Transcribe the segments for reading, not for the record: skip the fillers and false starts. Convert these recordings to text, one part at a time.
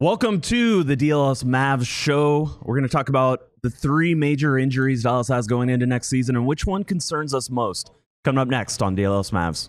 Welcome to the DLS Mavs show. We're going to talk about the three major injuries Dallas has going into next season and which one concerns us most. Coming up next on DLS Mavs.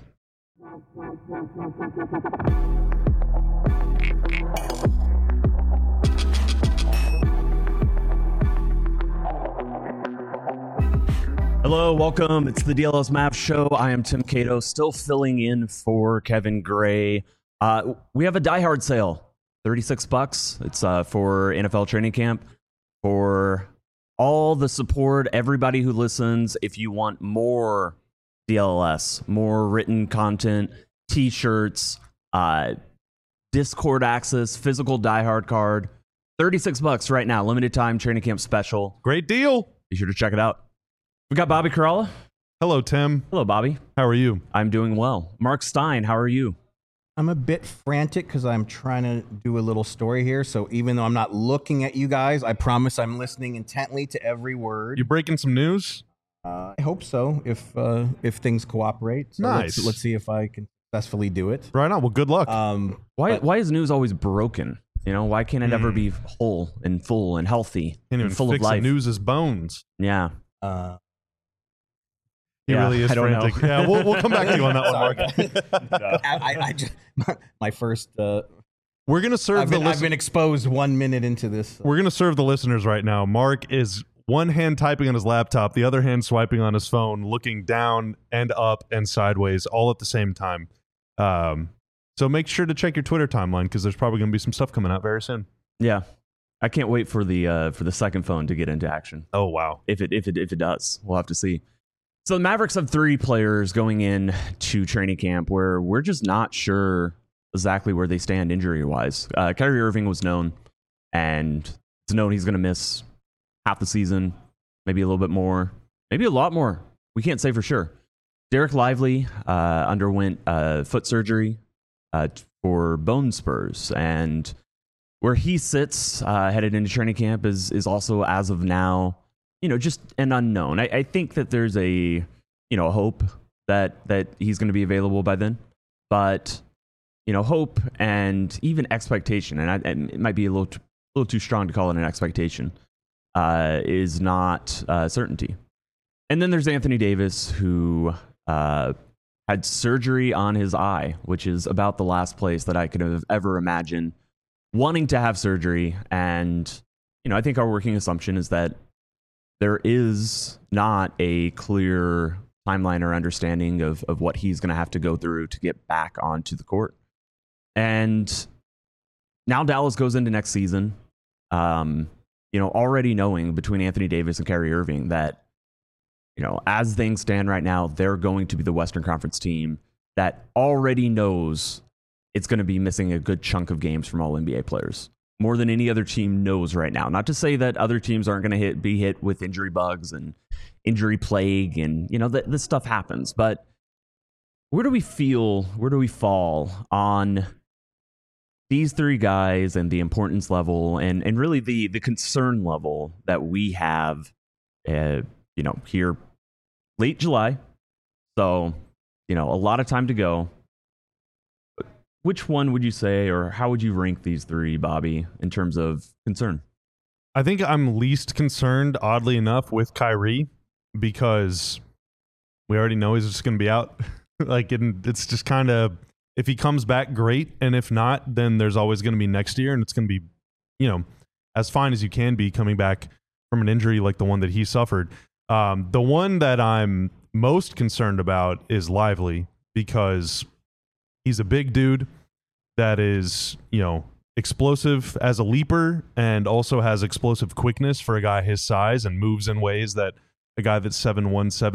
Hello, welcome. It's the DLS Mavs show. I am Tim Cato, still filling in for Kevin Gray. We have a Die Hard sale. $36. It's for NFL training camp. For all the support, everybody who listens, if you want more DLS, more written content, t-shirts, Discord access, physical Die Hard card, $36 right now, limited time training camp special. Great deal. Be sure to check it out. We got Bobby Caralla. Hello, Tim. Hello, Bobby. How are you? I'm doing well. Mark Stein, how are you? I'm a bit frantic because I'm trying to do a little story here. So even though I'm not looking at you guys, I promise I'm listening intently to every word. You breaking some news? I hope so, if things cooperate. So nice. Let's see if I can successfully do it. Right on. Well, good luck. Why is news always broken? You know, why can't it ever be whole and full and healthy and full of life? News is bones. Yeah. He really is frantic. Yeah, we'll come back to you on that one, Mark. I just, my first. We're gonna serve I've been exposed 1 minute into this. We're gonna serve the listeners right now. Mark is one hand typing on his laptop, the other hand swiping on his phone, looking down and up and sideways, all at the same time. So make sure to check your Twitter timeline because there's probably gonna be some stuff coming out very soon. Yeah, I can't wait for the second phone to get into action. Oh wow! If it does, we'll have to see. So the Mavericks have three players going in to training camp where we're just not sure exactly where they stand injury-wise. Kyrie Irving was known, and it's known he's going to miss half the season, maybe a little bit more, maybe a lot more. We can't say for sure. Derek Lively underwent foot surgery for bone spurs, and where he sits headed into training camp is also, as of now, just an unknown. I think that there's a hope that he's going to be available by then, but hope and even expectation, and it might be a little too strong to call it an expectation, is not certainty. And then there's Anthony Davis, who had surgery on his eye, which is about the last place that I could have ever imagined wanting to have surgery. And I think our working assumption is that there is not a clear timeline or understanding of what he's going to have to go through to get back onto the court. And now Dallas goes into next season, already knowing between Anthony Davis and Kyrie Irving that, as things stand right now, they're going to be the Western Conference team that already knows it's going to be missing a good chunk of games from all NBA players. More than any other team knows right now. Not to say that other teams aren't going to be hit with injury bugs and injury plague, and this stuff happens. But where do we fall on these three guys and the importance level and really the concern level that we have, here late July? So, a lot of time to go. Which one would you say, or how would you rank these three, Bobby, in terms of concern? I think I'm least concerned, oddly enough, with Kyrie because we already know he's just going to be out. It's just kind of, if he comes back, great. And if not, then there's always going to be next year. And it's going to be, as fine as you can be coming back from an injury like the one that he suffered. The one that I'm most concerned about is Lively because he's a big dude that is, explosive as a leaper and also has explosive quickness for a guy his size and moves in ways that a guy that's 7'1",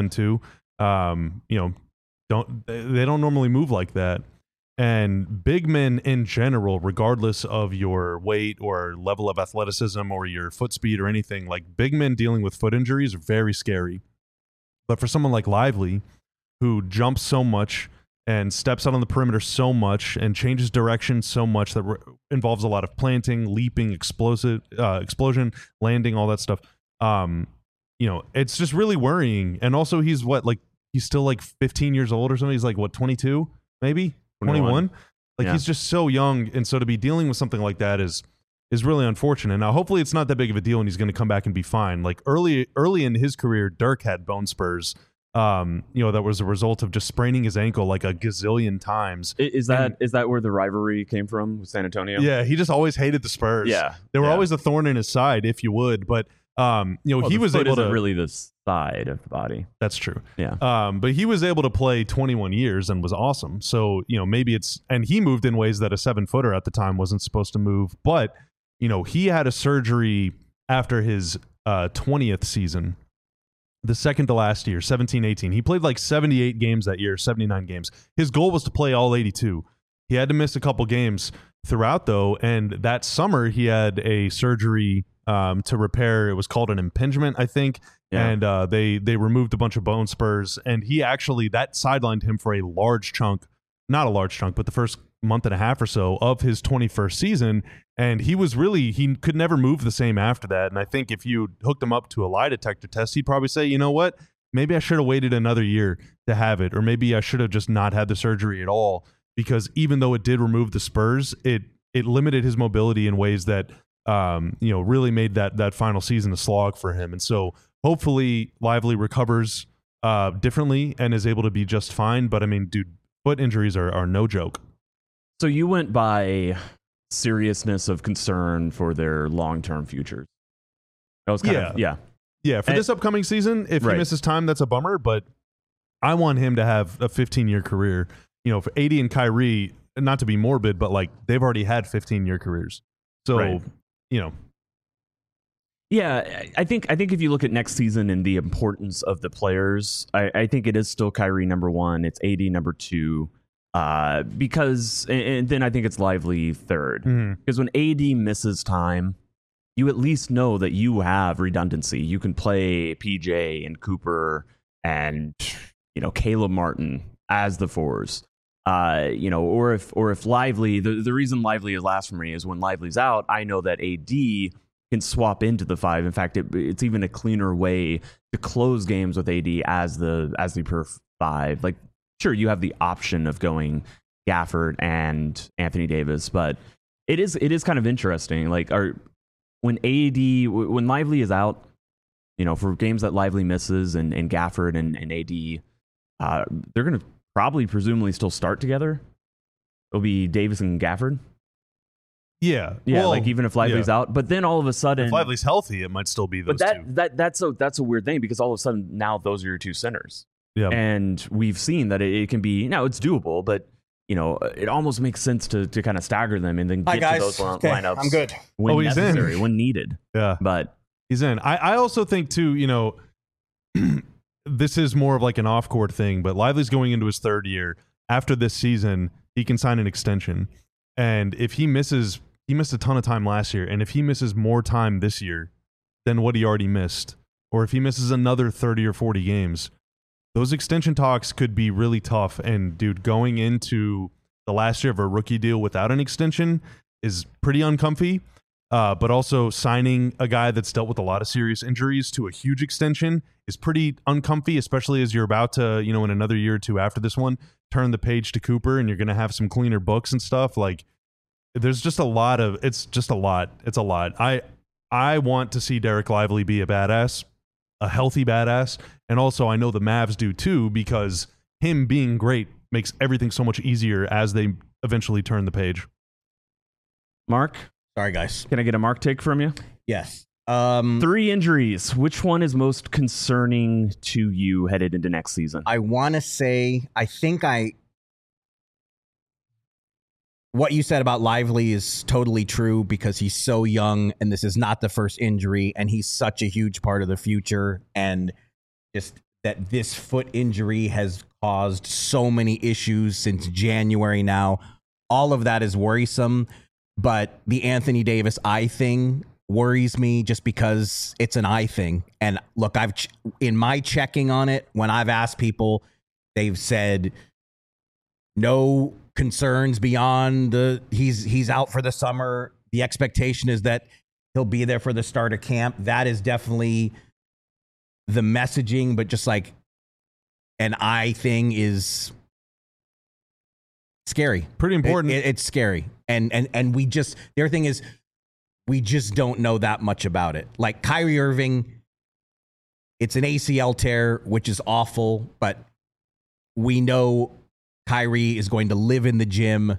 7'2", don't normally move like that. And big men in general, regardless of your weight or level of athleticism or your foot speed or anything, like big men dealing with foot injuries are very scary. But for someone like Lively, who jumps so much and steps out on the perimeter so much and changes direction so much that involves a lot of planting, leaping, explosion, landing, all that stuff. It's just really worrying. And also he's still like 15 years old or something. He's like, 22, maybe 21. He's just so young. And so to be dealing with something like that is is really unfortunate. Now, hopefully it's not that big of a deal and he's going to come back and be fine. Like early in his career, Dirk had bone spurs. That was a result of just spraining his ankle like a gazillion times. Is that where the rivalry came from with San Antonio? Yeah, he just always hated the Spurs. Yeah, they were always a thorn in his side, if you would. But he was able to really the side of the body. That's true. Yeah. But he was able to play 21 years and was awesome. So maybe and he moved in ways that a 7-footer at the time wasn't supposed to move. But he had a surgery after his 20th season. The second to last year, 17-18. He played like 78 games that year, 79 games. His goal was to play all 82. He had to miss a couple games throughout, though, and that summer he had a surgery to repair. It was called an impingement, I think, and they removed a bunch of bone spurs, and that sidelined him for a large chunk, not a large chunk, but the first month and a half or so of his 21st season. And he could never move the same after that. And I think if you hooked him up to a lie detector test, he'd probably say, you know what, maybe I should have waited another year to have it, or maybe I should have just not had the surgery at all, because even though it did remove the spurs, it limited his mobility in ways that really made that final season a slog for him. And so hopefully Lively recovers differently and is able to be just fine. But I mean, dude, foot injuries are no joke. So you went by seriousness of concern for their long-term futures. That was for this upcoming season. If he misses time, that's a bummer. But I want him to have a 15-year career. For AD and Kyrie, not to be morbid, but like they've already had 15-year careers. So Yeah, I think if you look at next season and the importance of the players, I think it is still Kyrie number 1. It's AD number 2. Because and then I think it's Lively third, because when AD misses time, you at least know that you have redundancy. You can play PJ and Cooper and Caleb Martin as the 4s, or if Lively, the reason Lively is last for me is when Lively's out, I know that AD can swap into the 5. In fact, it's even a cleaner way to close games with AD as the perf 5. Like, sure, you have the option of going Gafford and Anthony Davis, but it is kind of interesting. Like, when Lively is out, for games that Lively misses and Gafford and AD, they're going to probably presumably still start together. It'll be Davis and Gafford. Yeah, well, like even if Lively's out, but then all of a sudden, if Lively's healthy, it might still be those two. But that's a weird thing, because all of a sudden now those are your 2 centers. Yeah. And we've seen that it can be, now it's doable, but it almost makes sense to kind of stagger them and then get to those lineups. I'm good. When necessary, when needed. Yeah. But he's in. I also think too, this is more of like an off-court thing, but Lively's going into his 3rd year. After this season, he can sign an extension. And if he missed a ton of time last year, and if he misses more time this year than what he already missed, or if he misses another 30 or 40 games, those extension talks could be really tough. And dude, going into the last year of a rookie deal without an extension is pretty uncomfy. But also signing a guy that's dealt with a lot of serious injuries to a huge extension is pretty uncomfy, especially as you're about to, in another year or two after this one, turn the page to Cooper and you're going to have some cleaner books and stuff. Like, there's just it's just a lot. It's a lot. I want to see Derek Lively be a badass, a healthy badass. And also I know the Mavs do too, because him being great makes everything so much easier as they eventually turn the page. Mark? Sorry, guys. Can I get a Mark take from you? Yes. 3 injuries. Which one is most concerning to you headed into next season? I want to say, what you said about Lively is totally true, because he's so young and this is not the first injury and he's such a huge part of the future. And just that this foot injury has caused so many issues since January now. All of that is worrisome. But the Anthony Davis eye thing worries me, just because it's an eye thing. And look, in my checking on it, when I've asked people, they've said no concerns beyond he's out for the summer. The expectation is that he'll be there for the start of camp. That is definitely the messaging, but just like an eye thing is scary. Pretty important. It's scary. And we just, their thing is, we just don't know that much about it. Like Kyrie Irving, it's an ACL tear, which is awful, but we know Kyrie is going to live in the gym.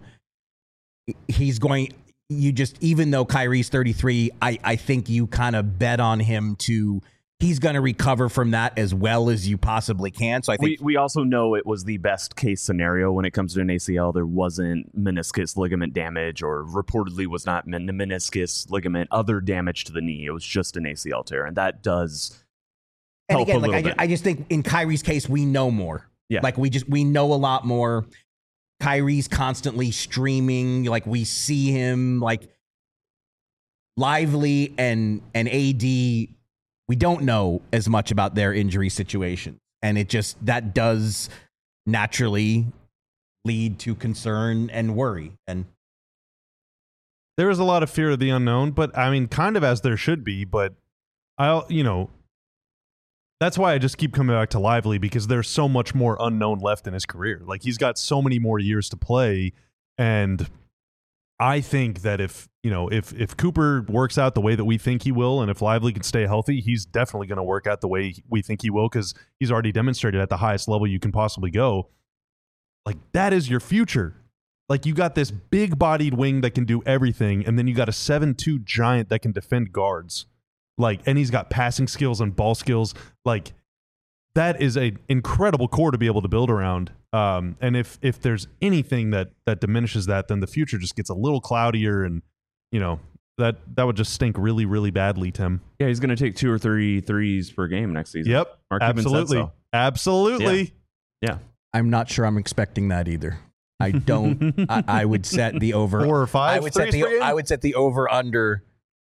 Even though Kyrie's 33, I think you kind of bet on him he's going to recover from that as well as you possibly can. So I think we also know it was the best case scenario when it comes to an ACL. There wasn't meniscus ligament damage, or reportedly was not meniscus ligament other damage to the knee. It was just an ACL tear, and that does help a little bit. I just think in Kyrie's case, we know more. Yeah. Like we know a lot more. Kyrie's constantly streaming. Like we see him like Lively and AD. We don't know as much about their injury situation. And that does naturally lead to concern and worry. And there is a lot of fear of the unknown, but I mean, kind of as there should be, but that's why I just keep coming back to Lively, because there's so much more unknown left in his career. Like, he's got so many more years to play. And I think that if Cooper works out the way that we think he will, and if Lively can stay healthy, he's definitely going to work out the way we think he will, because he's already demonstrated at the highest level you can possibly go. Like, that is your future. Like, you got this big-bodied wing that can do everything, and then you got a 7'2" giant that can defend guards. Like, and he's got passing skills and ball skills. Like, that is an incredible core to be able to build around. And if there's anything that diminishes that, then the future just gets a little cloudier, and that would just stink really, really badly, Tim. Yeah, he's going to take 2 or 3 threes per game next season. Yep, Mark Cuban said absolutely, so. Absolutely. Yeah. I'm not sure I'm expecting that either. I don't. I would set the over 4 or 5. I would set the over under.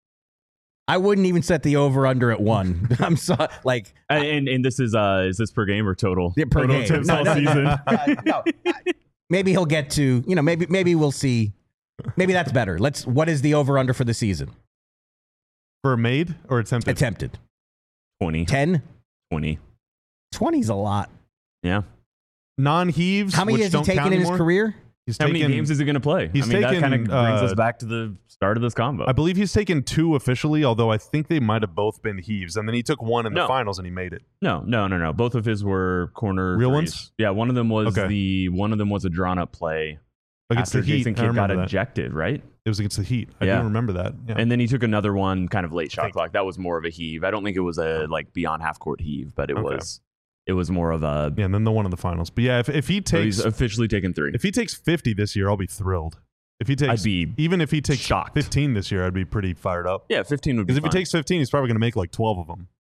I wouldn't even set the over under at 1. I'm sorry. Like, and this is this per game or total? Yeah, per total game. tips all season. No. Maybe he'll get to. Maybe we'll see. Maybe that's better. What is the over under for the season? For made or attempted? Attempted. 20. 10. 20. 20's a lot. Yeah. Non-heaves. How many has he taken in his career? How many games is he going to play? He's that taken, kind of brings us back to the start of this combo. I believe he's taken 2 officially, although I think they might have both been heaves. And then he took 1 in the finals and he made it. No. Both of his were corner real threes. ones. Yeah, one of them was a drawn up play against after the Heat. Jason Kidd got ejected, right? It was against the Heat. I do remember that. Yeah. And then he took another one kind of late shot clock. That was more of a heave. I don't think it was a beyond half court heave, but it was more of a... Yeah, and then the one in the finals. But yeah, if he takes... So he's officially taken 3. If he takes 50 this year, I'll be thrilled. If he takes... Even if he takes shocked. 15 this year, I'd be pretty fired up. Yeah, 15 would be Because if he takes 15, he's probably going to make like 12 of them.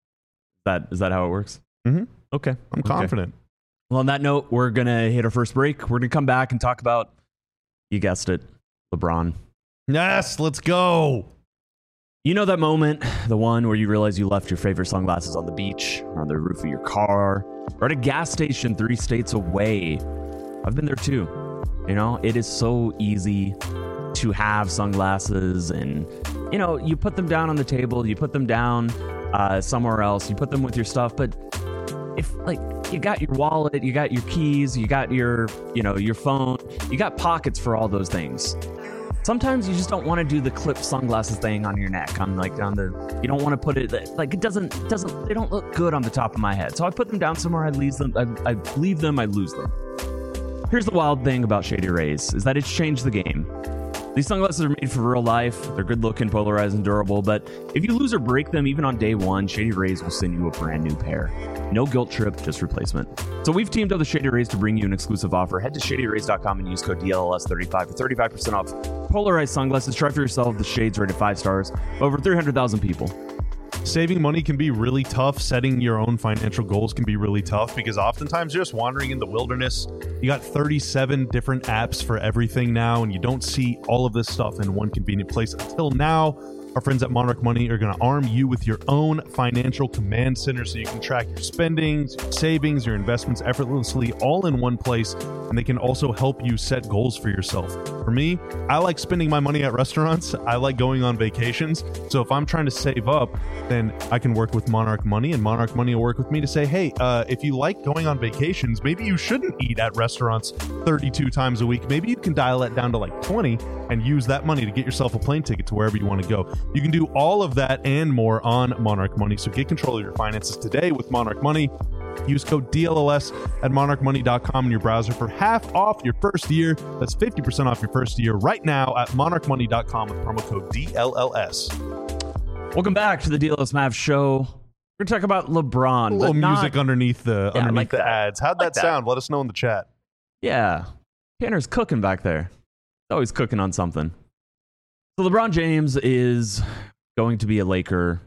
Is that how it works? Mm-hmm. Okay. I'm confident. Well, on that note, we're going to hit our first break. We're going to come back and talk about, you guessed it, LeBron. Yes, let's go. You know that moment, the one where you realize you left your favorite sunglasses on the beach, or on the roof of your car, or at a gas station 3 states away. I've been there too. It is so easy to have sunglasses, and you put them down on the table, you put them down somewhere else, you put them with your stuff, but if you got your wallet, you got your keys, you got your phone, you got pockets for all those things. Sometimes you just don't want to do the clip sunglasses thing on your neck. You don't want to put it it doesn't. They don't look good on the top of my head. So I put them down somewhere. I leave them. I leave them. I lose them. Here's the wild thing about Shady Rays is that it's changed the game. These sunglasses are made for real life. They're good looking, polarized, and durable. But if you lose or break them, even on day 1, Shady Rays will send you a brand new pair. No guilt trip, just replacement. So we've teamed up with Shady Rays to bring you an exclusive offer. Head to ShadyRays.com and use code DLLS35 for 35% off polarized sunglasses. Try for yourself. The shades rated 5 stars. Over 300,000 people. Saving money can be really tough. Setting your own financial goals can be really tough because oftentimes you're just wandering in the wilderness. You got 37 different apps for everything now, and you don't see all of this stuff in one convenient place. Until now, Our friends at Monarch Money are going to arm you with your own financial command center so you can track your spendings, your savings, your investments effortlessly all in one place, and they can also help you set goals for yourself. For me, I like spending my money at restaurants. I like going on vacations. So if I'm trying to save up, then I can work with Monarch Money, and Monarch Money will work with me to say, hey, if you like going on vacations, maybe you shouldn't eat at restaurants 32 times a week. Maybe you can dial that down to like 20 and use that money to get yourself a plane ticket to wherever you want to go. You can do all of that and more on Monarch Money. So get control of your finances today with Monarch Money. Use code DLLS at monarchmoney.com in your browser for half off your first year. That's 50% off your first year right now at monarchmoney.com with promo code DLLS. Welcome back to the DLS Mavs show. We're going to talk about LeBron. A little but not- music underneath the like that. ads. How'd Like that sound? Let us know in the chat. Yeah. Tanner's cooking back there. He's always cooking on something. So LeBron James is going to be a Laker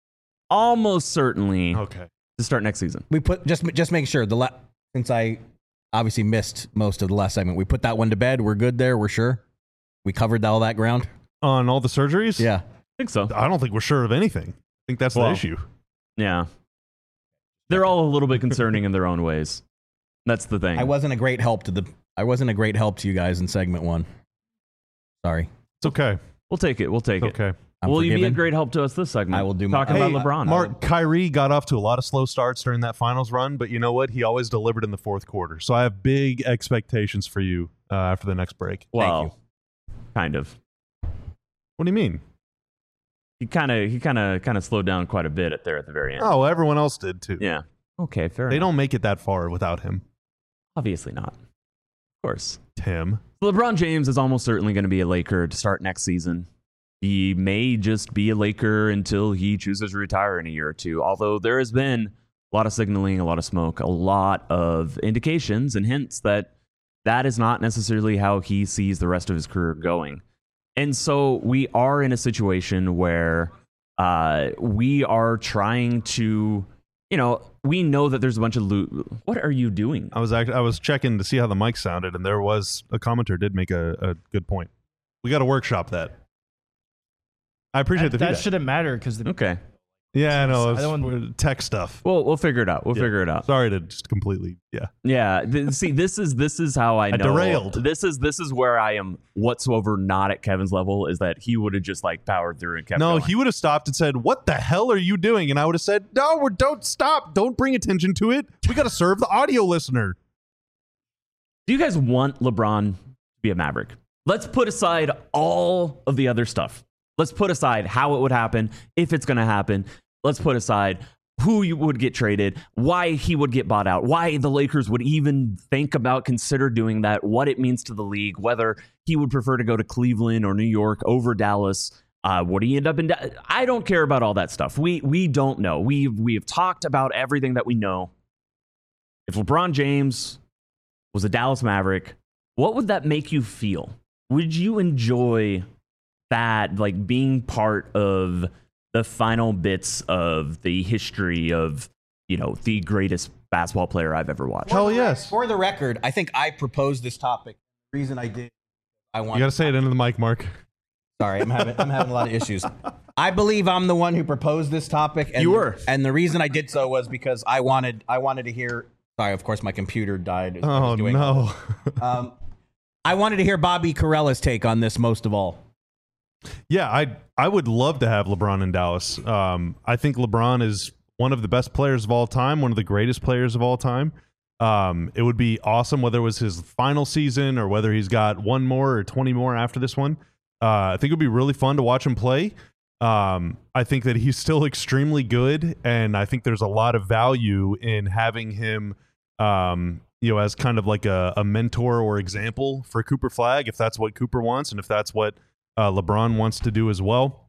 almost certainly Okay. to start next season. We put just make sure since I obviously missed most of the last segment, we put that one to bed. We're good there. We're sure we covered all that ground. On all the surgeries? Yeah. I think so. I don't think we're sure of anything. I think that's the Well, issue. Yeah. They're all a little bit concerning in their own ways. That's the thing. I wasn't a great help to you guys in segment 1. Sorry. It's okay. We'll take it. We'll take it. Okay. I'm Will you be a forgiven. great help to us this segment? I will do my- Talking Hey, about LeBron. Mark, Kyrie got off to a lot of slow starts during that finals run, but you know what? He always delivered in the fourth quarter. So I have big expectations for you after the next break. Well, kind of. What do you mean? He kind of slowed down quite a bit at the very end. Oh, everyone else did too. Yeah. Okay, fair They enough. don't make it that far without him. Obviously not. Of course. Tim. LeBron James is almost certainly going to be a Laker to start next season. He may just be a Laker until he chooses to retire in a year or two, although there has been a lot of signaling, a lot of smoke, a lot of indications and hints that that is not necessarily how he sees the rest of his career going. And so we are in a situation where we are trying to, we know that there's a bunch of What are you doing? I was checking to see how the mic sounded, and there was a commenter did make a good point. We got to workshop that. I appreciate the that feedback. shouldn't matter because Okay. Yeah, I know. I don't It's tech stuff. We'll figure it out. We'll Yeah. figure it out. Sorry to just completely, yeah. Yeah. See, this is how I know. derailed. This is where I am whatsoever not at Kevin's level, is that he would have just like powered through and kept No, going. he would have stopped and said, "What the hell are you doing?" And I would have said, "No, don't stop. Don't bring attention to it. We got to serve the audio listener." Do you guys want LeBron to be a Maverick? Let's put aside all of the other stuff. Let's put aside how it would happen, if it's going to happen. Let's put aside who you would get traded, why he would get bought out, why the Lakers would even consider doing that, what it means to the league, whether he would prefer to go to Cleveland or New York over Dallas. Would he end up in I don't care about all that stuff. We don't know. We have talked about everything that we know. If LeBron James was a Dallas Maverick, what would that make you feel? Would you enjoy that, like being part of the final bits of the history of, the greatest basketball player I've ever watched? Hell yes. For the record, I think I proposed this topic. The reason I did, I want. You got to say it into the mic, Mark. Sorry, I'm having a lot of issues. I believe I'm the one who proposed this topic. And You were. and the reason I did so was because I wanted to hear. Sorry, of course, my computer died. as I was Oh doing no. I wanted to hear Bobby Carella's take on this most of all. Yeah, I would love to have LeBron in Dallas. I think LeBron is one of the best players of all time, one of the greatest players of all time. It would be awesome whether it was his final season or whether he's got one more or 20 more after this one. I think it would be really fun to watch him play. I think that he's still extremely good, and I think there's a lot of value in having him as kind of like a mentor or example for Cooper Flagg, if that's what Cooper wants and if that's what LeBron wants to do as well.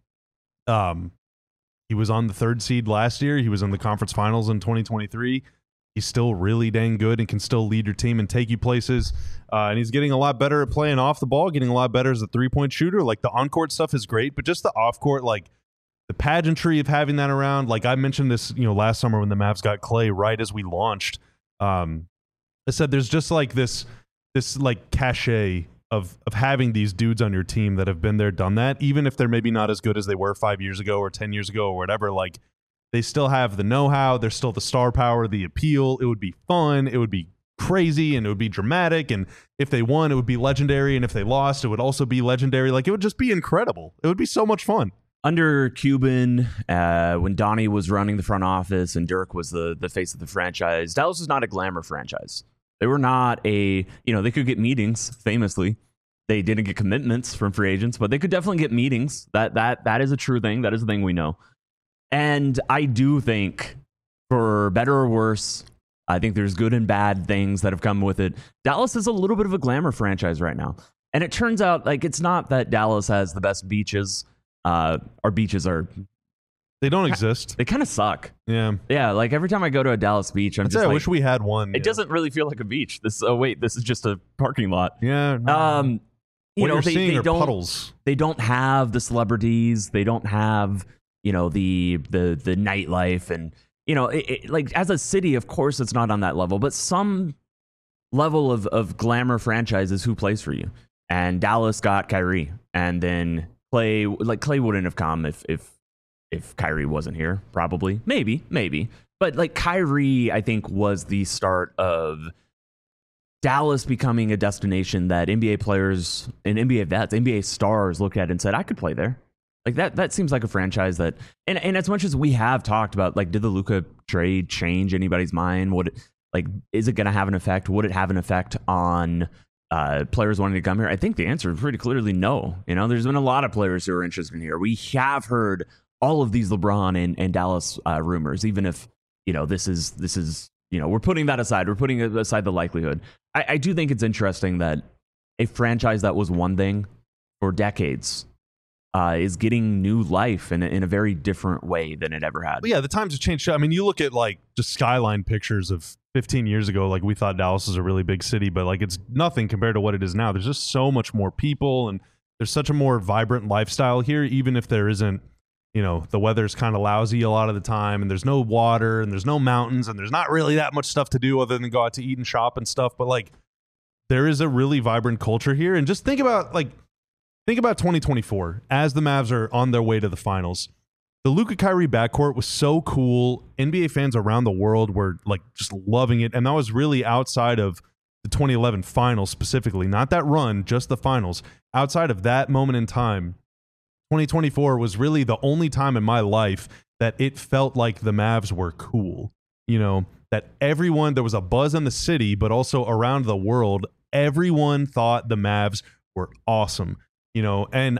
He was on the 3rd seed last year. He was in the conference finals in 2023. He's still really dang good and can still lead your team and take you places. And he's getting a lot better at playing off the ball, getting a lot better as a three-point shooter. Like, the on-court stuff is great, but just the off-court, like the pageantry of having that around. Like I mentioned this, last summer when the Mavs got Clay right as we launched. I said there's just like this like cachet of having these dudes on your team that have been there, done that, even if they're maybe not as good as they were 5 years ago or 10 years ago or whatever, like they still have the know-how, there's still the star power, the appeal. It would be fun, it would be crazy, and it would be dramatic, and if they won it would be legendary, and if they lost it would also be legendary. Like, it would just be incredible. It would be so much fun. Under Cuban, when Donnie was running the front office and Dirk was the face of the franchise, Dallas was not a glamour franchise. They were not they could get meetings, famously. They didn't get commitments from free agents, but they could definitely get meetings. That is a true thing. That is a thing we know. And I do think, for better or worse, I think there's good and bad things that have come with it. Dallas is a little bit of a glamour franchise right now. And it turns out, like, it's not that Dallas has the best beaches. Our beaches they don't exist. They kind of suck. Yeah. Like every time I go to a Dallas beach, I'm just I like, wish we had one. It doesn't really feel like a beach. This is just a parking lot. Yeah. What you're seeing are puddles. They don't have the celebrities. They don't have, the nightlife, and like, as a city, of course, it's not on that level, but some level of glamour franchises who plays for you. And Dallas got Kyrie, and then Clay wouldn't have come if Kyrie wasn't here. Probably, maybe, but like, Kyrie, I think, was the start of Dallas becoming a destination that NBA players and NBA vets, NBA stars looked at and said, I could play there. Like, that seems like a franchise that, and as much as we have talked about, like, did the Luka trade change anybody's mind? Is it going to have an effect? Would it have an effect on players wanting to come here? I think the answer is pretty clearly no. There's been a lot of players who are interested in here. We have heard all of these LeBron and Dallas rumors, even if, this is, we're putting that aside. We're putting aside the likelihood. I do think it's interesting that a franchise that was one thing for decades is getting new life in a very different way than it ever had. But yeah, the times have changed. I mean, you look at like just skyline pictures of 15 years ago, like, we thought Dallas was a really big city, but like, it's nothing compared to what it is now. There's just so much more people, and there's such a more vibrant lifestyle here, even if there isn't, the weather's kind of lousy a lot of the time, and there's no water, and there's no mountains, and there's not really that much stuff to do other than go out to eat and shop and stuff. But like, there is a really vibrant culture here. And just think about 2024 as the Mavs are on their way to the finals. The Luka Kyrie backcourt was so cool. NBA fans around the world were like just loving it. And that was really outside of the 2011 finals specifically, not that run, just the finals. Outside of that moment in time, 2024 was really the only time in my life that it felt like the Mavs were cool. That everyone, there was a buzz in the city, but also around the world, everyone thought the Mavs were awesome. And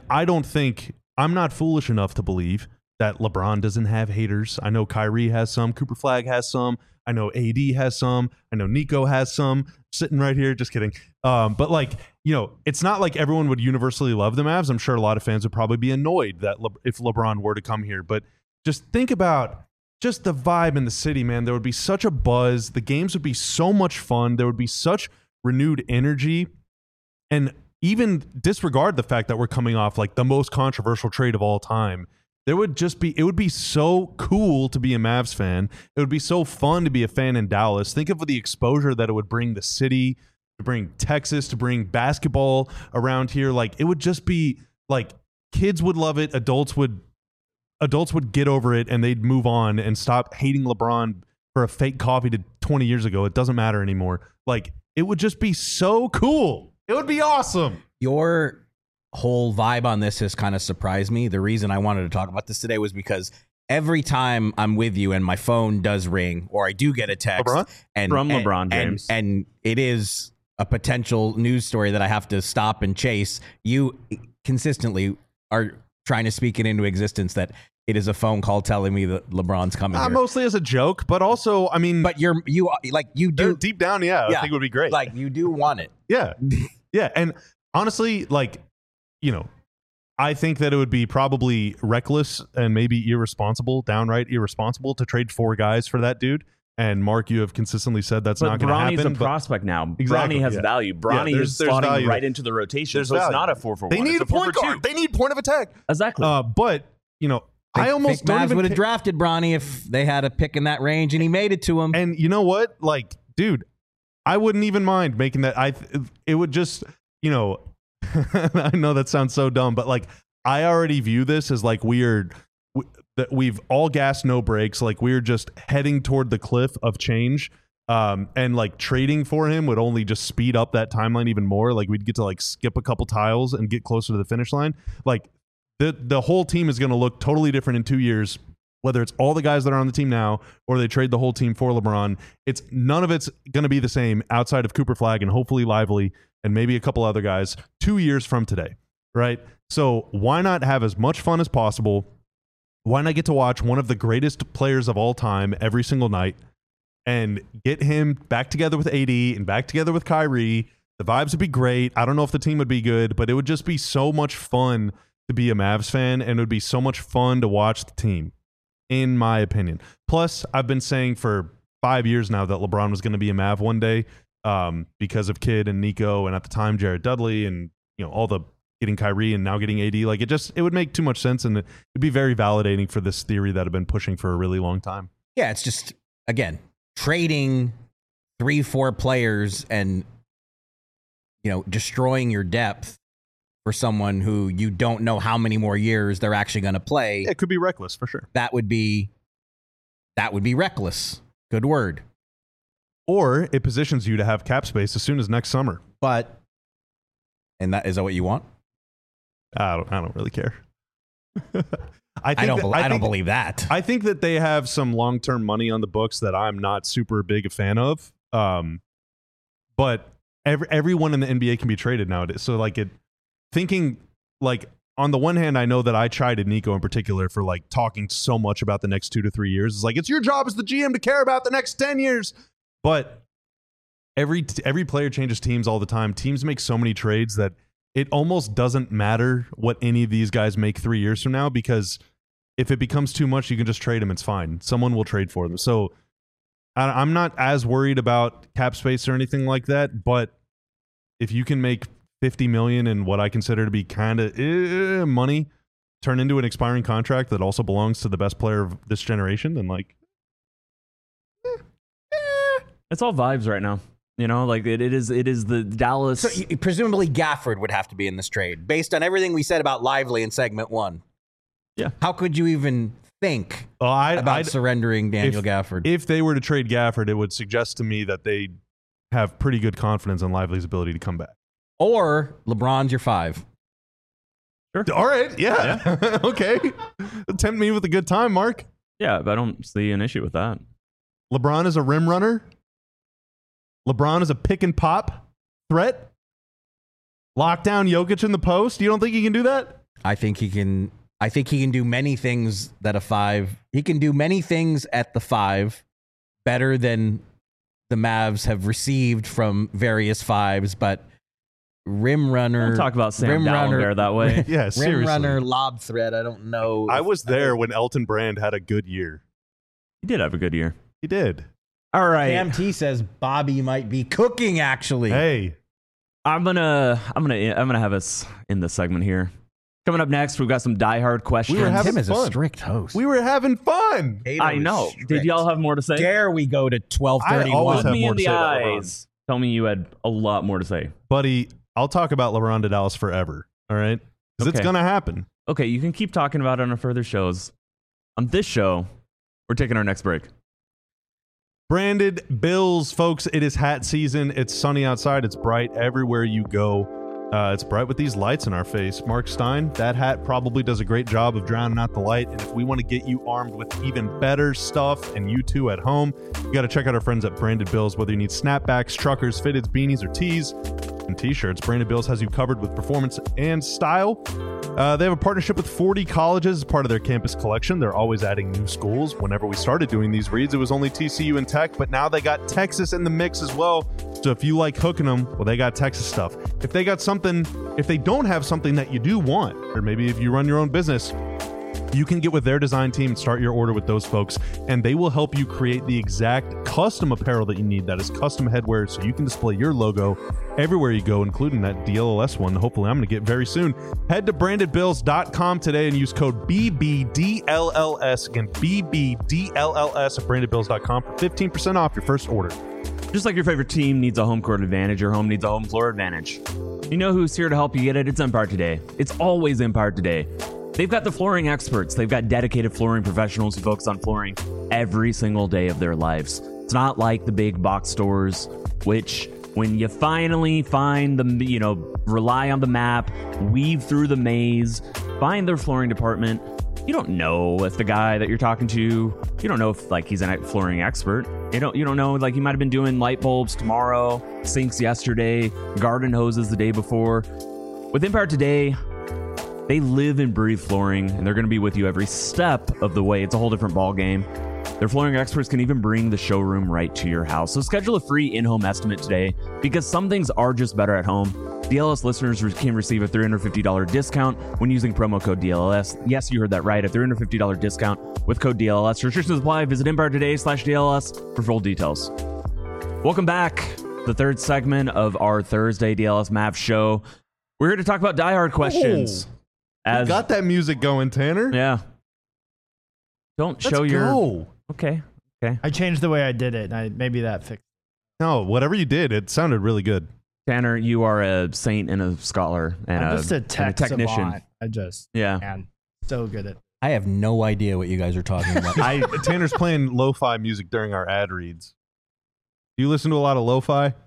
I'm not foolish enough to believe that LeBron doesn't have haters. I know Kyrie has some, Cooper Flagg has some, I know AD has some, I know Nico has some, sitting right here, just kidding. But like, it's not like everyone would universally love the Mavs. I'm sure a lot of fans would probably be annoyed that if LeBron were to come here, but just think about just the vibe in the city, man. There would be such a buzz. The games would be so much fun. There would be such renewed energy. And even disregard the fact that we're coming off like the most controversial trade of all time. It would be so cool to be a Mavs fan. It would be so fun to be a fan in Dallas. Think of the exposure that it would bring the city, to bring Texas, to bring basketball around here. Like, it would just be like, kids would love it. Adults would get over it, and they'd move on and stop hating LeBron for a fake coffee to 20 years ago. It doesn't matter anymore. Like, it would just be so cool. It would be awesome. Your whole vibe on this has kind of surprised me. The reason I wanted to talk about this today was because every time I'm with you and my phone does ring, or I do get a text from LeBron James, and it is a potential news story that I have to stop and chase, you consistently are trying to speak it into existence that it is a phone call telling me that LeBron's coming here. Mostly as a joke, but also, I mean, but you do deep down, I think it would be great. Like, you do want it. Yeah. Yeah. And honestly, like, I think that it would be probably reckless and maybe irresponsible, downright irresponsible, to trade 4 guys for that dude. And Mark, you have consistently said that's not going to happen. Bronny's a prospect now. Exactly, Bronny has value. Bronny is slotting right into the rotation. So it's not a 4-for-1. They need a point guard. They need point of attack. Exactly. But, I almost don't even would have drafted Bronny if they had a pick in that range, and he made it to him. And you know what? Like, dude, I wouldn't even mind making that. It would just, I know that sounds so dumb, but like I already view this as like that we've all gas, no brakes. Like we're just heading toward the cliff of change. And like trading for him would only just speed up that timeline even more. Like we'd get to like skip a couple tiles and get closer to the finish line. Like the whole team is going to look totally different in 2 years, whether it's all the guys that are on the team now or they trade the whole team for LeBron. None of it's going to be the same outside of Cooper Flagg and hopefully Lively and maybe a couple other guys 2 years from today, right? So why not have as much fun as possible? Why not get to watch one of the greatest players of all time every single night and get him back together with AD and back together with Kyrie? The vibes would be great. I don't know if the team would be good, but it would just be so much fun to be a Mavs fan, and it would be so much fun to watch the team, in my opinion. Plus, I've been saying for 5 years now that LeBron was going to be a Mav one day because of Kidd and Nico, and at the time Jared Dudley, and all the getting Kyrie and now getting AD. Like it would make too much sense, and it'd be very validating for this theory that I've been pushing for a really long time. Yeah, it's just, again, trading 3-4 players and destroying your depth for someone who you don't know how many more years they're actually going to play. It could be reckless for sure. That would be reckless. Good word. Or it positions you to have cap space as soon as next summer. And is that what you want? I don't really care. I don't believe that. I think that they have some long-term money on the books that I'm not super big a fan of. But everyone in the NBA can be traded nowadays. So thinking like on the one hand, I know that I chided Nico in particular for like talking so much about the next 2 to 3 years. It's like, it's your job as the GM to care about the next 10 years. But every player changes teams all the time. Teams make so many trades that it almost doesn't matter what any of these guys make 3 years from now, because if it becomes too much, you can just trade them. It's fine. Someone will trade for them. So I'm not as worried about cap space or anything like that. But if you can make $50 million in what I consider to be kind of money turn into an expiring contract that also belongs to the best player of this generation, then it's all vibes right now. It is the Dallas. So presumably Gafford would have to be in this trade based on everything we said about Lively in segment 1. Yeah. How could you even think about surrendering Daniel Gafford? If they were to trade Gafford, it would suggest to me that they have pretty good confidence in Lively's ability to come back. Or LeBron's your 5. Sure. All right. Yeah. Okay. Tempt me with a good time, Mark. Yeah, but I don't see an issue with that. LeBron is a rim runner. LeBron is a pick and pop threat. Lock down Jokic in the post. You don't think he can do that? I think he can do many things that a 5. He can do many things at the 5 better than the Mavs have received from various 5s, but rim runner. Don't talk about Sam Dalembert that way. Yeah, seriously. Rim runner, lob threat. I don't know. I was there when Elton Brand had a good year. He did have a good year. He did. All right. Cam T says Bobby might be cooking. Actually, hey, I'm gonna have us in this segment here. Coming up next, we've got some diehard questions. Tim is a strict host. We were having fun. I know. Did y'all have more to say? Dare we go to 12:31? Look me in the eyes. Tell me you had a lot more to say, buddy. I'll talk about LeBron to Dallas forever. All right, because it's gonna happen. Okay, you can keep talking about it on our further shows. On this show, we're taking our next break. Branded Bills, folks. It is hat season. It's sunny outside. It's bright everywhere you go. It's bright with these lights in our face. Mark Stein, that hat probably does a great job of drowning out the light. And if we want to get you armed with even better stuff, and you too at home, you got to check out our friends at Branded Bills. Whether you need snapbacks, truckers, fitteds, beanies, or tees, and t-shirts, Branded Bills has you covered with performance and style. They have a partnership with 40 colleges as part of their campus collection. They're always adding new schools. Whenever we started doing these reads, it was only TCU and Tech, but now they got Texas in the mix as well. So if you like hooking them, well, they got Texas stuff. If they don't have something that you do want, or maybe if you run your own business, you can get with their design team and start your order with those folks, and they will help you create the exact custom apparel that you need. That is custom headwear, so you can display your logo everywhere you go, including that DLLS one. Hopefully, I'm going to get very soon. Head to brandedbills.com today and use code BBDLLS. Again, BBDLLS at brandedbills.com for 15% off your first order. Just like your favorite team needs a home court advantage, your home needs a home floor advantage. You know who's here to help you get it? It's Empire Today. It's always Empire Today. They've got the flooring experts. They've got dedicated flooring professionals who focus on flooring every single day of their lives. It's not like the big box stores, which when you finally find them, rely on the map, weave through the maze, find their flooring department, you don't know if the guy that you're talking to, you don't know if he's a flooring expert. You don't know, he might have been doing light bulbs tomorrow, sinks yesterday, garden hoses the day before. With Empire Today, they live and breathe flooring, and they're going to be with you every step of the way. It's a whole different ball game. Their flooring experts can even bring the showroom right to your house. So schedule a free in-home estimate today, because some things are just better at home. DLS listeners can receive a $350 discount when using promo code DLS. Yes, you heard that right. A $350 discount with code DLS. Restrictions apply. Visit EmpireToday.com/DLS for full details. Welcome back. The third segment of our Thursday DLS Mavs show. We're here to talk about diehard questions. You got that music going, Tanner. Yeah. Don't show your... Okay. I changed the way I did it. Maybe that fixed it. No, whatever you did, it sounded really good. Tanner, you are a saint and a scholar and I'm just a technician. Savant. Man, so good at. I have no idea what you guys are talking about. Tanner's playing lo-fi music during our ad reads. Do you listen to a lot of lo-fi?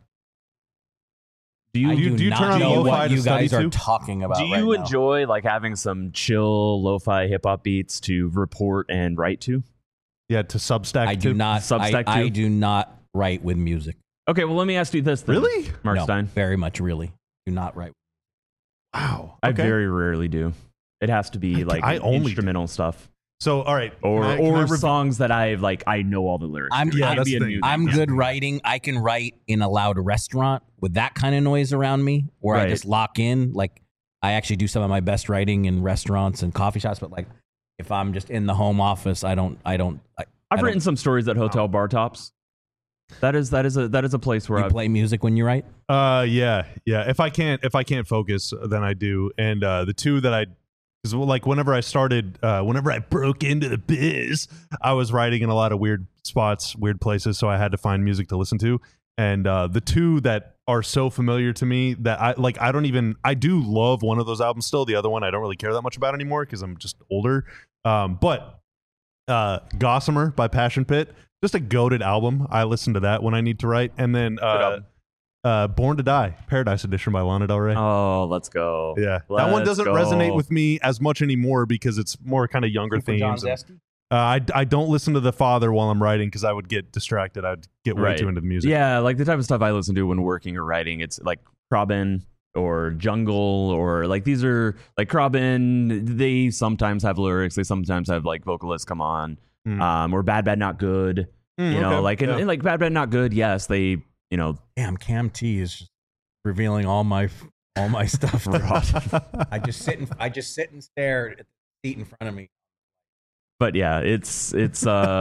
Do you turn on lo-fi what to you guys study are to? talking about? Do you right now. enjoy having some chill lo-fi hip hop beats to report and write to? Yeah, to Substack. I do not. Substack I too? do not write with music. Okay, well, let me ask you this then. Really? Mark No, Stein? very much really. Do not write. Wow. I Okay. very rarely do. It has to be I only instrumental stuff. So, all right. Or songs that I know all the lyrics. I'm that's the thing. I'm good writing. I can write in a loud restaurant with that kind of noise around me, where I Right. just lock in. I actually do some of my best writing in restaurants and coffee shops. But if I'm just in the home office, I've written some stories at hotel bar tops. That is a place where You I play music when you write. Yeah. If I can't focus, then I do. And the two that because whenever I broke into the biz, I was writing in a lot of weird spots, weird places, so I had to find music to listen to. And the two that are so familiar to me that I do love one of those albums still. The other one I don't really care that much about anymore because I'm just older. But Gossamer by Passion Pit, just a goated album. I listen to that when I need to write. And then Born to Die, Paradise Edition by Lana Del Rey. Oh, let's go. Yeah, that one doesn't resonate with me as much anymore because it's more kind of younger themes. I don't listen to The Father while I'm writing because I would get distracted. I'd get way too into the music. Yeah, the type of stuff I listen to when working or writing, it's like Krabin or Jungle or these are Krabin. They sometimes have lyrics. They sometimes have vocalists come on. Or Bad Bad Not Good. And Bad Bad Not Good. Yes, they. Damn, Cam T is just revealing all my stuff. I just sit and stare at the seat in front of me. But yeah, it's see,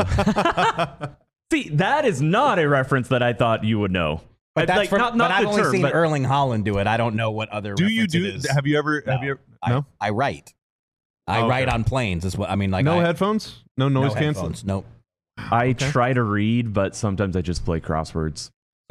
that is not a reference that I thought you would know. But that's not I've the only term, seen but Erling Haaland do it. I don't know what other. Do you do? It is. Have you ever? No. I write. I write on planes. Is what I mean. No headphones. No noise canceling. Nope. I try to read, but sometimes I just play crosswords.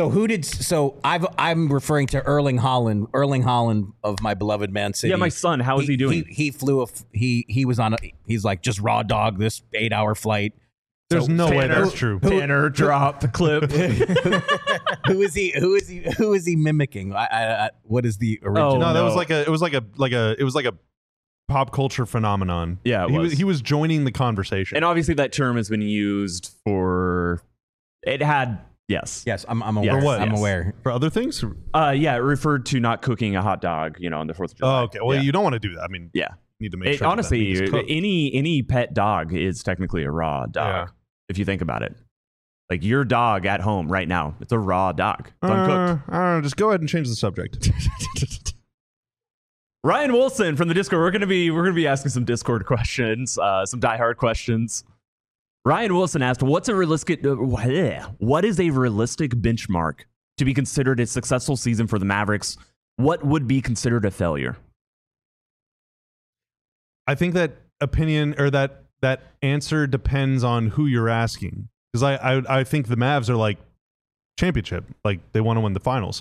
I'm referring to Erling Haaland of my beloved Man City. Yeah, my son. How is he doing? He flew he's just raw dog this 8-hour flight. There's no way that's true. Tanner dropped the clip. Who is he mimicking? What is the original? Oh, no, that was like a pop culture phenomenon. Yeah, he was joining the conversation. And obviously that term has been used for it had yes. Yes, I'm aware. For what? I'm Yes. aware. For other things? Yeah, it referred to not cooking a hot dog, on the 4th of July. Oh, okay. Well, you don't want to do that. I mean, yeah. You need to make sure honestly, that meat is cooked. any pet dog is technically a raw dog. Yeah. If you think about it. Your dog at home right now, it's a raw dog. It's uncooked. I don't know. Just go ahead and change the subject. Ryan Wilson from the Discord. We're gonna be asking some Discord questions, some diehard questions. Ryan Wilson asked, what is a realistic benchmark to be considered a successful season for the Mavericks? What would be considered a failure? I think that opinion or that answer depends on who you're asking. Because I think the Mavs are championship. Like they want to win the finals.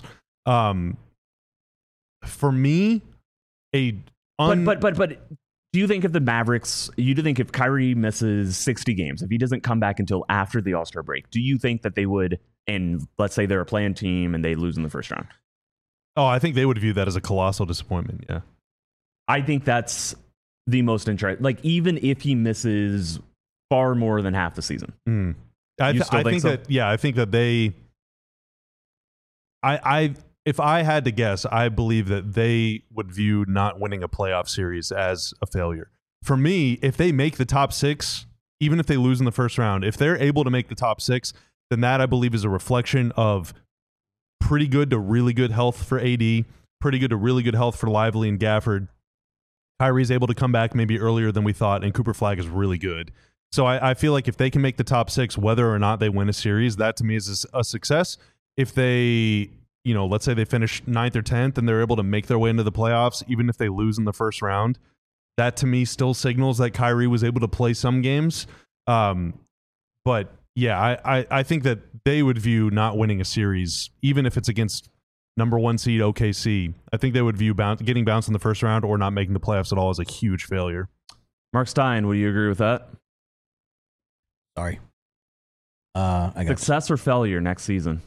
For me, but do you think if the Mavericks, if Kyrie misses 60 games, if he doesn't come back until after the All-Star break, do you think that they would, and let's say they're a play-in team and they lose in the first round? Oh, I think they would view that as a colossal disappointment. Yeah. I think that's the most interesting. Like, even if he misses far more than half the season. I think so? I think that they, if I had to guess, I believe that they would view not winning a playoff series as a failure. For me, if they make the top 6, even if they lose in the first round, if they're able to make the top 6, then that I believe is a reflection of pretty good to really good health for AD, pretty good to really good health for Lively and Gafford. Kyrie's able to come back maybe earlier than we thought, and Cooper Flag is really good. So I feel like if they can make the top 6, whether or not they win a series, that to me is a success. If they, let's say they finish 9th or 10th and they're able to make their way into the playoffs, even if they lose in the first round, that to me still signals that Kyrie was able to play some games. But yeah, I think that they would view not winning a series, even if it's against number 1 seed OKC, I think they would view getting bounced in the first round or not making the playoffs at all as a huge failure. Mark Stein, would you agree with that? Sorry. I got success or failure next season?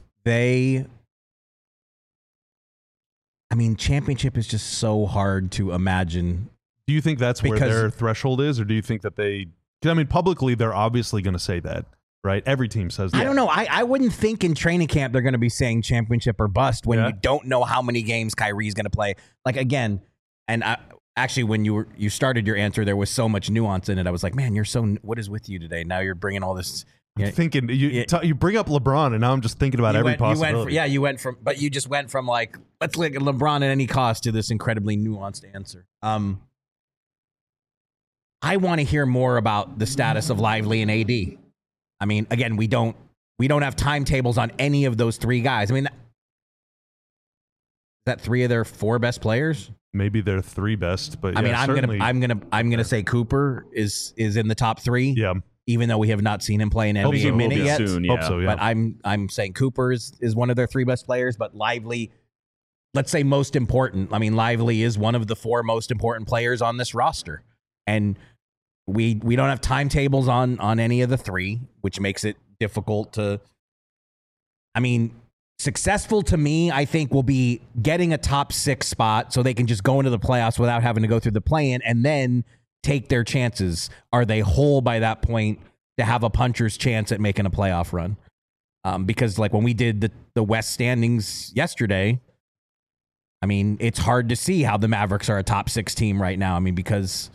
Championship is just so hard to imagine. Do you think that's where their threshold is, or do you think that publicly they're obviously going to say that, right? Every team says that. I don't know. I wouldn't think in training camp they're going to be saying championship or bust when you don't know how many games Kyrie's going to play. Like, again, and actually, when you started your answer, there was so much nuance in it. I was like, man, what is with you today? Now you're bringing all this. I'm thinking you bring up LeBron, and now I'm just thinking about every possibility. You went from like, let's look at LeBron at any cost to this incredibly nuanced answer. I want to hear more about the status of Lively and AD. I mean, again, we don't have timetables on any of those 3 guys. I mean, is that 3 of their 4 best players? Maybe they're 3 best, but I'm gonna say Cooper is in the top 3. Yeah. Even though we have not seen him play an NBA minute yet. Soon, yeah. Hope so, yeah. But I'm saying Cooper is one of their 3 best players, but Lively, let's say most important. I mean, Lively is one of the 4 most important players on this roster. And we don't have timetables on any of the 3, which makes it difficult to. I mean, successful to me, I think, will be getting a top 6 spot so they can just go into the playoffs without having to go through the play-in, and then take their chances. Are they whole by that point to have a puncher's chance at making a playoff run? Because like when we did the West standings yesterday, I mean, it's hard to see how the Mavericks are a top 6 team right now. I mean, because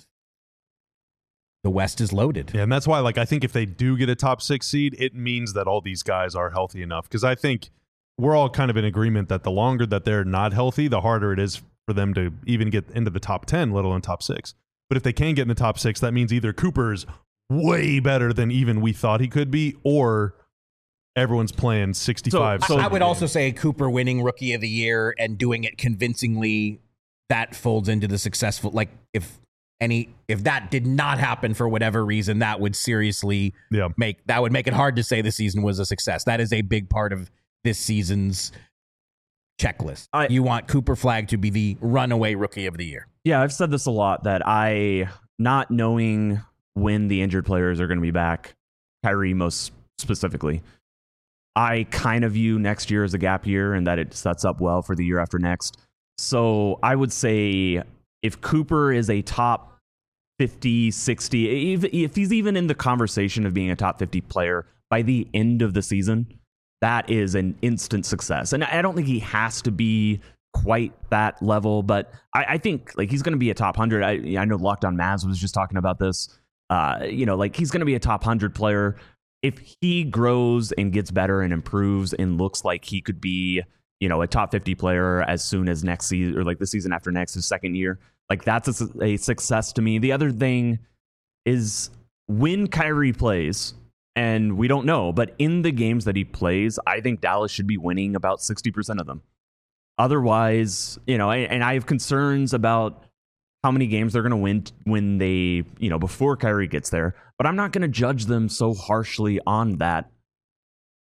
the West is loaded. Yeah, and that's why, like, I think if they do get a top 6 seed, it means that all these guys are healthy enough. Because I think we're all kind of in agreement that the longer that they're not healthy, the harder it is for them to even get into the top 10, let alone top 6. But if they can get in the top 6, that means either Cooper's way better than even we thought he could be, or everyone's playing 65. So I would also say Cooper winning Rookie of the Year and doing it convincingly, that folds into the successful. Like if that did not happen for whatever reason, that would seriously make it hard to say the season was a success. That is a big part of this season's checklist. You want Cooper Flag to be the runaway Rookie of the Year. Yeah, I've said this a lot, that not knowing when the injured players are going to be back, Kyrie most specifically, I kind of view next year as a gap year and that it sets up well for the year after next. So I would say if Cooper is a top 50, 60, if he's even in the conversation of being a top 50 player by the end of the season, that is an instant success. And I don't think he has to be quite that level, but I think like he's going to be a top 100. I know Locked On Mavs was just talking about this. Like he's going to be a top 100 player. If he grows and gets better and improves and looks like he could be, a top 50 player as soon as next season, or like the season after next, his second year, like that's a success to me. The other thing is when Kyrie plays, and we don't know, but in the games that he plays, I think Dallas should be winning about 60% of them. Otherwise, and I have concerns about how many games they're going to win when they, before Kyrie gets there. But I'm not going to judge them so harshly on that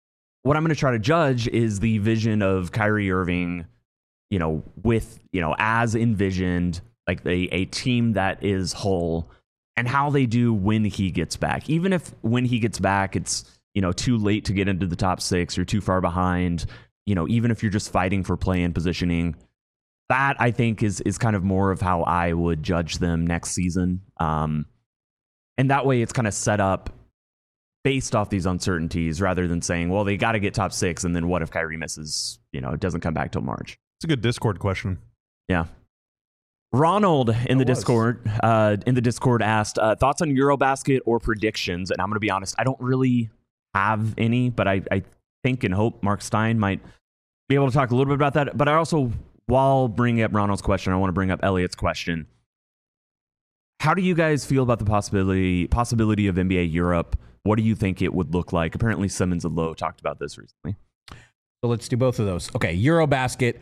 what I'm going to try to judge is the vision of Kyrie Irving, with, as envisioned, like a team that is whole, and how they do when he gets back. Even if when he gets back, it's, too late to get into the top 6 or too far behind, even if you're just fighting for play-in positioning, that I think is kind of more of how I would judge them next season. And that way it's kind of set up based off these uncertainties rather than saying, well, they got to get top 6. And then what if Kyrie misses, it doesn't come back till March? It's a good Discord question. Yeah. Ronald in the Discord asked thoughts on Eurobasket or predictions. And I'm going to be honest, I don't really have any, but I think and hope Mark Stein might be able to talk a little bit about that. But I also, while bringing up Ronald's question, I want to bring up Elliot's question. How do you guys feel about the possibility of NBA Europe? What do you think it would look like? Apparently Simmons and Lowe talked about this recently. So let's do both of those. Okay, Eurobasket.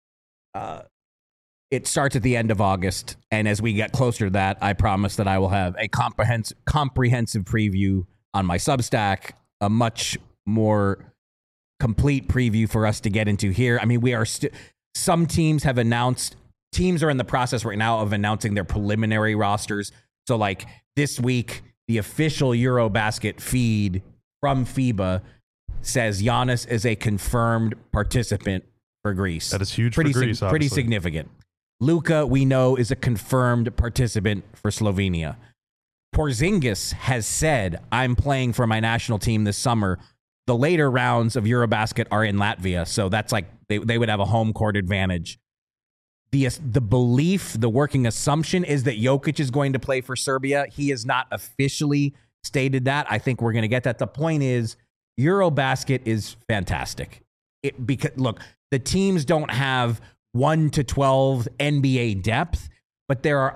It starts at the end of August, and as we get closer to that, I promise that I will have a comprehensive preview on my Substack, a much more complete preview for us to get into here. I mean, we are some teams have announced. Teams are in the process right now of announcing their preliminary rosters. So, like this week, the official Eurobasket feed from FIBA says Giannis is a confirmed participant for Greece. That is huge for Greece, pretty significant. Luka, we know, is a confirmed participant for Slovenia. Porzingis has said, I'm playing for my national team this summer. The later rounds of Eurobasket are in Latvia, so that's like they would have a home court advantage. The belief, the working assumption is that Jokic is going to play for Serbia. He has not officially stated that. I think we're going to get that. The point is, Eurobasket is fantastic. Because look, the teams don't have 1 to 12 NBA depth, but there's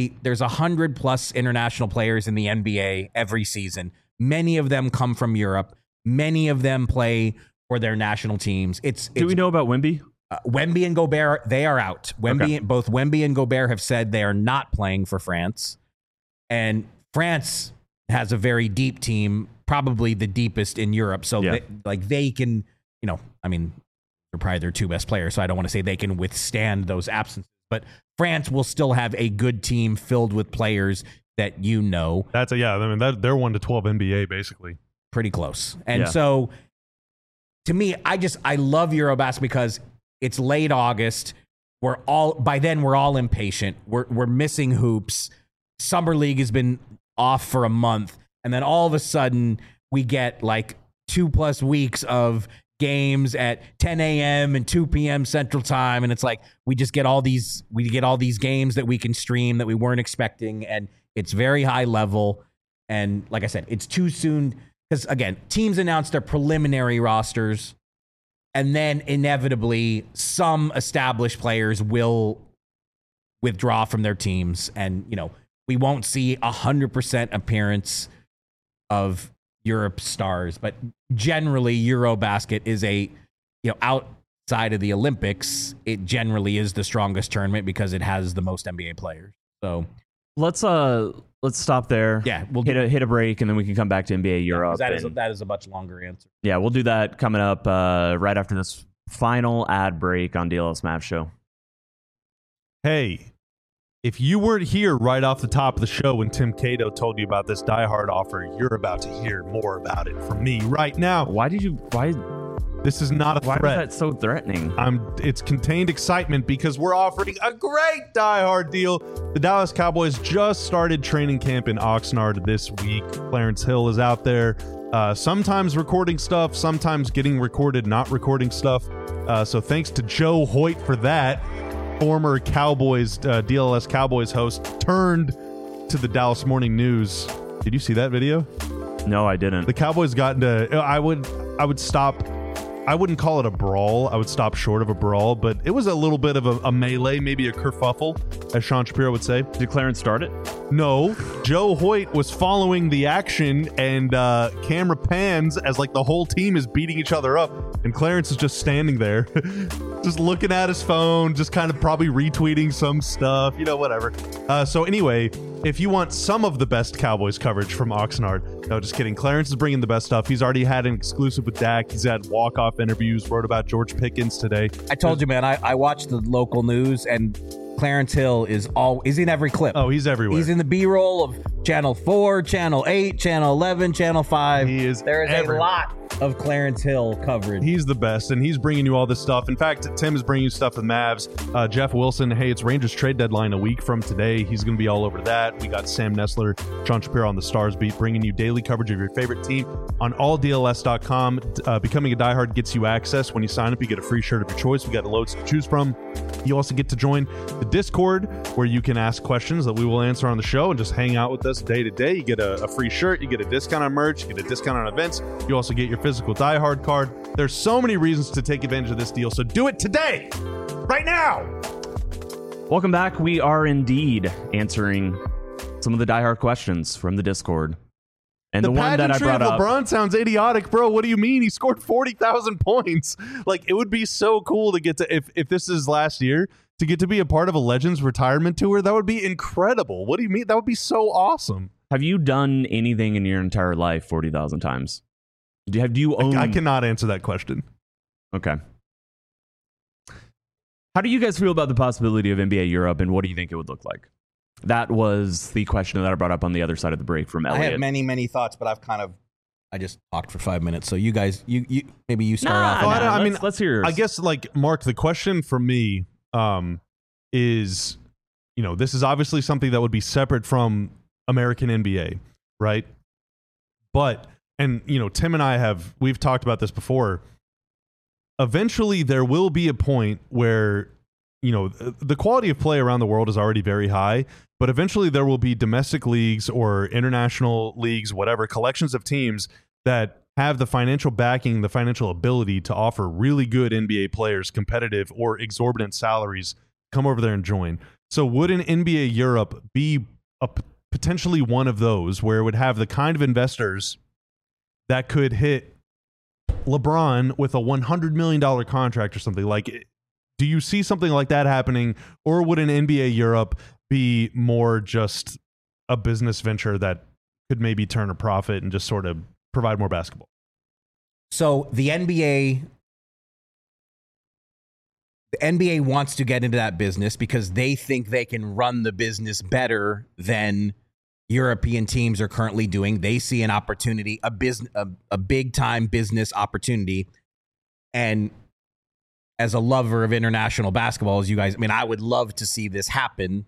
100+ international players in the NBA every season. Many of them come from Europe. Many of them play for their national teams. Do we know about Wemby? Wemby and Gobert, they are out. Okay. Both Wemby and Gobert have said they are not playing for France. And France has a very deep team, probably the deepest in Europe. So they can, they're probably their 2 best players. So I don't want to say they can withstand those absences. But France will still have a good team filled with players that they're 1 to 12 NBA basically. Pretty close. And so to me, I love Eurobasket because it's late August. By then we're all impatient. We're missing hoops. Summer League has been off for a month. And then all of a sudden we get like 2+ weeks of games at 10 a.m. and 2 p.m. Central Time. And it's like, we get all these games that we can stream that we weren't expecting. And it's very high level. And like I said, it's too soon because, again, teams announce their preliminary rosters. And then inevitably, some established players will withdraw from their teams. And, we won't see 100% appearance of Europe stars. But generally, Eurobasket is outside of the Olympics, it generally is the strongest tournament because it has the most NBA players. So let's stop there. Yeah, we'll hit a break, and then we can come back to NBA Europe. That is a much longer answer. Yeah, we'll do that coming up right after this final ad break on DLS Mavs Show. Hey, if you weren't here right off the top of the show when Tim Cato told you about this Die Hard offer, you're about to hear more about it from me right now. Why? This is not a threat. Why was that so threatening? It's contained excitement because we're offering a great Die Hard deal. The Dallas Cowboys just started training camp in Oxnard this week. Clarence Hill is out there, sometimes recording stuff, sometimes getting recorded, not recording stuff. So thanks to Joe Hoyt for that. Former Cowboys, DLS Cowboys host, turned to the Dallas Morning News. Did you see that video? No, I didn't. The Cowboys got into. I would stop. I wouldn't call it a brawl. I would stop short of a brawl, but it was a little bit of a melee, maybe a kerfuffle, as Sean Shapiro would say. Did Clarence start it? No. Joe Hoyt was following the action, and camera pans as like the whole team is beating each other up, and Clarence is just standing there, just looking at his phone, just kind of probably retweeting some stuff, whatever. So anyway, if you want some of the best Cowboys coverage from Oxnard, no, just kidding. Clarence is bringing the best stuff. He's already had an exclusive with Dak. He's had walk-off interviews, wrote about George Pickens today. I told you, man, I watched the local news, and Clarence Hill is in every clip. Oh, he's everywhere. He's in the B-roll of Channel 4, Channel 8, Channel 11, Channel 5. He is There is everywhere. a lot of Clarence Hill coverage. He's the best, and he's bringing you all this stuff. In fact, Tim is bringing you stuff with Mavs. Jeff Wilson, hey, it's Rangers trade deadline a week from today. He's going to be all over that. We got Sam Nestler, Sean Shapiro on the Stars Beat, bringing you daily coverage of your favorite team on alldls.com. Becoming a diehard gets you access. When you sign up, you get a free shirt of your choice. We got loads to choose from. You also get to join the Discord, where you can ask questions that we will answer on the show and just hang out with us day to day. You get a free shirt, you get a discount on merch, you get a discount on events. You also get your physical diehard card. There's so many reasons to take advantage of this deal, so do it today, right now. Welcome back. We are indeed answering some of the diehard questions from the Discord. And the one that I pageantry brought of up, LeBron sounds idiotic, bro. What do you mean? He scored 40,000 points. Like, it would be so cool to get to, if this is last year, to get to be a part of a Legends retirement tour. That would be incredible. What do you mean? That would be so awesome. have you done anything in your entire life 40,000 times? Do you own? I cannot answer that question. Okay. How do you guys feel about the possibility of NBA Europe, and what do you think it would look like? That was the question that I brought up on the other side of the break from Elliot. I have many thoughts, but I just talked for 5 minutes. So you guys, you maybe you start off. I mean, let's hear yours. I guess, like, Mark, the question for me is, this is obviously something that would be separate from American NBA, right? But, and, Tim and we've talked about this before. Eventually, there will be a point where, the quality of play around the world is already very high, but eventually there will be domestic leagues or international leagues, whatever, collections of teams that have the financial backing, the financial ability to offer really good NBA players competitive or exorbitant salaries, come over there and join. So would an NBA Europe be potentially one of those where it would have the kind of investors that could hit LeBron with a $100 million contract or something? Like, do you see something like that happening, or would an NBA Europe be more just a business venture that could maybe turn a profit and just sort of provide more basketball? So the NBA wants to get into that business because they think they can run the business better than European teams are currently doing. They see an opportunity, a big time business opportunity. And as a lover of international basketball, as you guys, I would love to see this happen.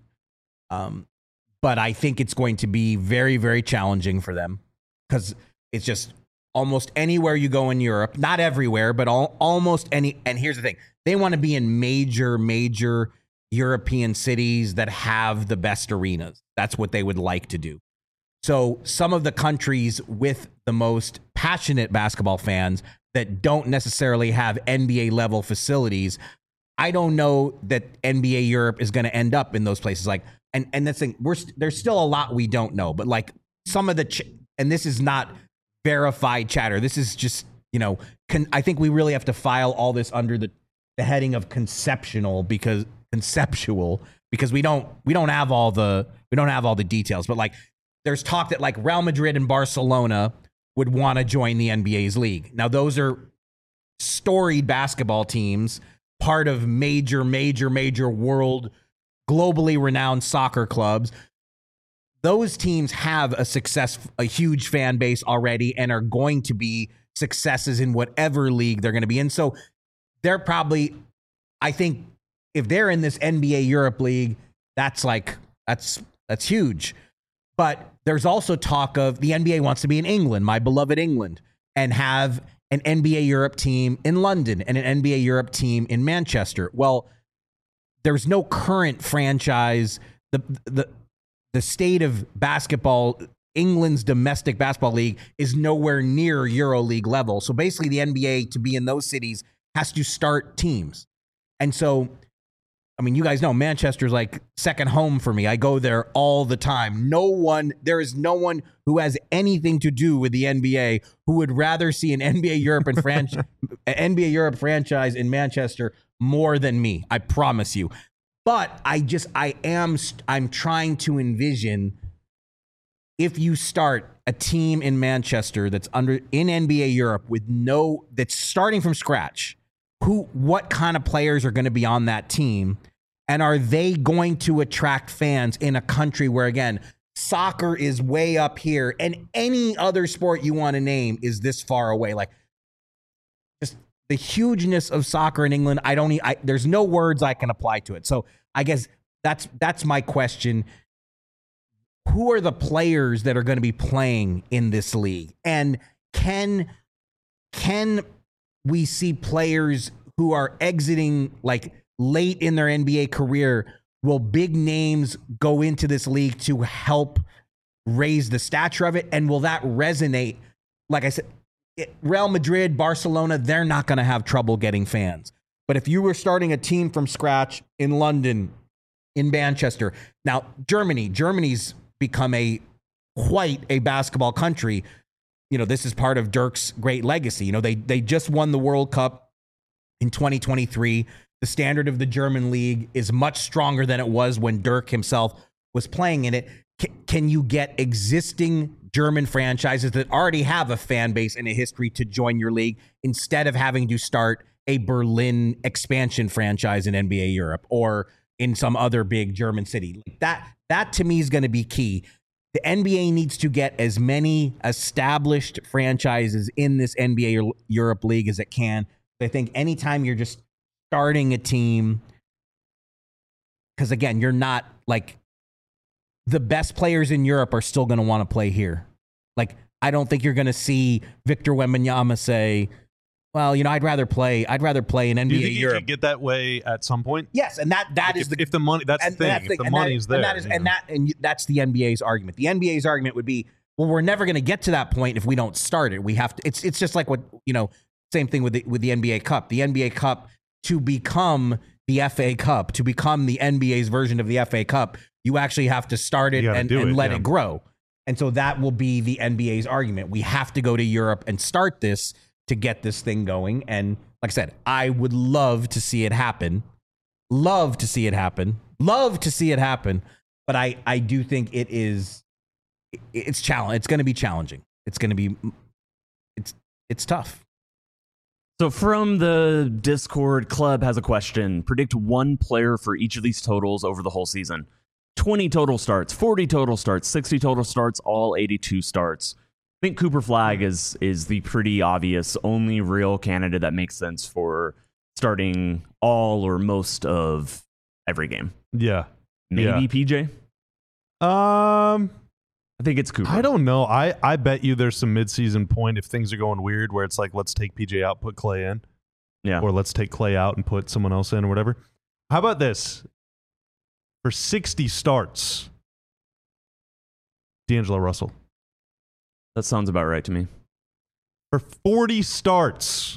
But I think it's going to be very, very challenging for them because it's just almost anywhere you go in Europe, not everywhere, but almost any. And here's the thing. They want to be in major European cities that have the best arenas. That's what they would like to do. So some of the countries with the most passionate basketball fans that don't necessarily have NBA level facilities, I don't know that NBA Europe is going to end up in those places. Like, and that's thing, there's still a lot we don't know, but like some of the, and this is not verified chatter. This is just, I think we really have to file all this under the heading of conceptual because we don't have all the details. But like, there's talk that like Real Madrid and Barcelona would want to join the NBA's league. Now, those are storied basketball teams, part of major world, globally renowned soccer clubs. Those teams have a huge fan base already and are going to be successes in whatever league they're going to be in. So they're probably, I think, if they're in this NBA Europe league, that's huge. But there's also talk of the NBA wants to be in England, my beloved England, and have an NBA Europe team in London and an NBA Europe team in Manchester. Well, there's no current franchise. The state of basketball, England's domestic basketball league, is nowhere near EuroLeague level. So basically the NBA, to be in those cities, has to start teams. And so, you guys know Manchester's like second home for me. I go there all the time. There is no one who has anything to do with the NBA who would rather see an NBA Europe and NBA Europe franchise in Manchester more than me. I promise you. But I'm trying to envision if you start a team in Manchester that's in NBA Europe that's starting from scratch, what kind of players are going to be on that team? And are they going to attract fans in a country where, again, soccer is way up here and any other sport you want to name is this far away? Like, just the hugeness of soccer in England, there's no words I can apply to it. So I guess that's my question. Who are the players that are going to be playing in this league? And can we see players who are exiting like late in their NBA career? Will big names go into this league to help raise the stature of it? And will that resonate? Like I said, Real Madrid, Barcelona, they're not going to have trouble getting fans. But if you were starting a team from scratch in London, in Manchester, now Germany's become quite a basketball country. You know, this is part of Dirk's great legacy. You know, they just won the World Cup in 2023. The standard of the German league is much stronger than it was when Dirk himself was playing in it. Can you get existing German franchises that already have a fan base and a history to join your league instead of having to start a Berlin expansion franchise in NBA Europe or in some other big German city? That to me is going to be key. The NBA needs to get as many established franchises in this NBA Europe league as it can. I think anytime you're just starting a team, because again, you're not like the best players in Europe are still going to want to play here. Like, I don't think you're going to see Victor Wembanyama say, well, you know, I'd rather play in NBA Do you think Europe. you could get that way at some point? Yes, and that is if the money. That's the thing. If the money's there, and that's the NBA's argument. The NBA's argument would be, well, we're never going to get to that point if we don't start it. We have to. It's just like what, you know. Same thing with the NBA Cup. The NBA Cup, to become the FA Cup, to become the NBA's version of the FA Cup, you actually have to start it and let it grow. And so that will be the NBA's argument. We have to go to Europe and start this to get this thing going. And like I said, I would love to see it happen. Love to see it happen. But I do think it's challenge. It's going to be challenging. It's going to be, it's tough. So from the Discord, Club has a question. Predict one player for each of these totals over the whole season. 20 total starts, 40 total starts, 60 total starts, all 82 starts. I think Cooper Flagg is the pretty obvious only real candidate that makes sense for starting all or most of every game. Yeah. Maybe PJ? I think it's Cooper. I don't know. I bet you there's some midseason point if things are going weird where it's like, let's take PJ out, put Clay in. Yeah. Or let's take Clay out and put someone else in or whatever. How about this? For 60 starts, D'Angelo Russell. That sounds about right to me. For 40 starts,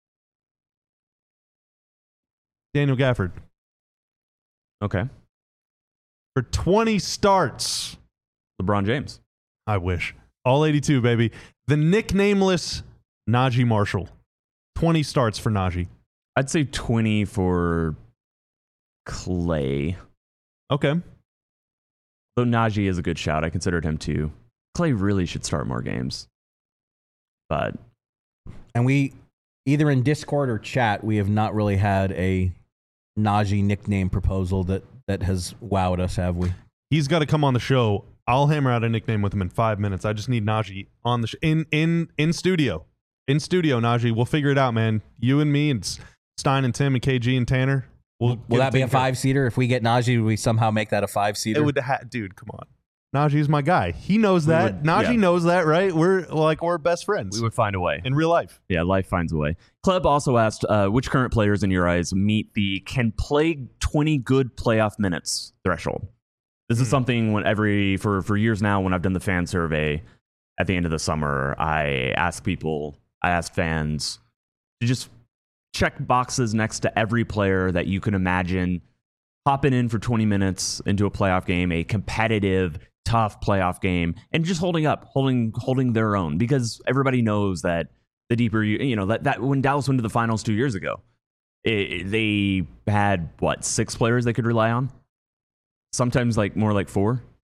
Daniel Gafford. Okay. For 20 starts, LeBron James. I wish. All 82, baby. The nicknameless Najee Marshall. 20 starts for Najee. I'd say 20 for Clay. Okay. Though Najee is a good shout. I considered him too. Clay really should start more games. But. And we, either in Discord or chat, we have not really had a Najee nickname proposal that has wowed us, have we? He's got to come on the show. I'll hammer out a nickname with him in 5 minutes. I just need Najee on the in studio. In studio, Najee. We'll figure it out, man. You and me and Stein and Tim and KG and Tanner. Will that be a 5-seater? If we get Najee, would we somehow make that a 5-seater? It would dude, come on. Najee's my guy. He knows that. Najee knows that, right? We're best friends. We would find a way. In real life. Yeah, life finds a way. Club also asked, which current players in your eyes meet the can play 20 good playoff minutes threshold? This is something for years now when I've done the fan survey at the end of the summer, I ask fans to just check boxes next to every player that you can imagine hopping in for 20 minutes into a playoff game, a competitive, tough playoff game, and just holding their own, because everybody knows that the deeper that when Dallas went to the finals 2 years ago, they had 6 players they could rely on. Sometimes more like 4.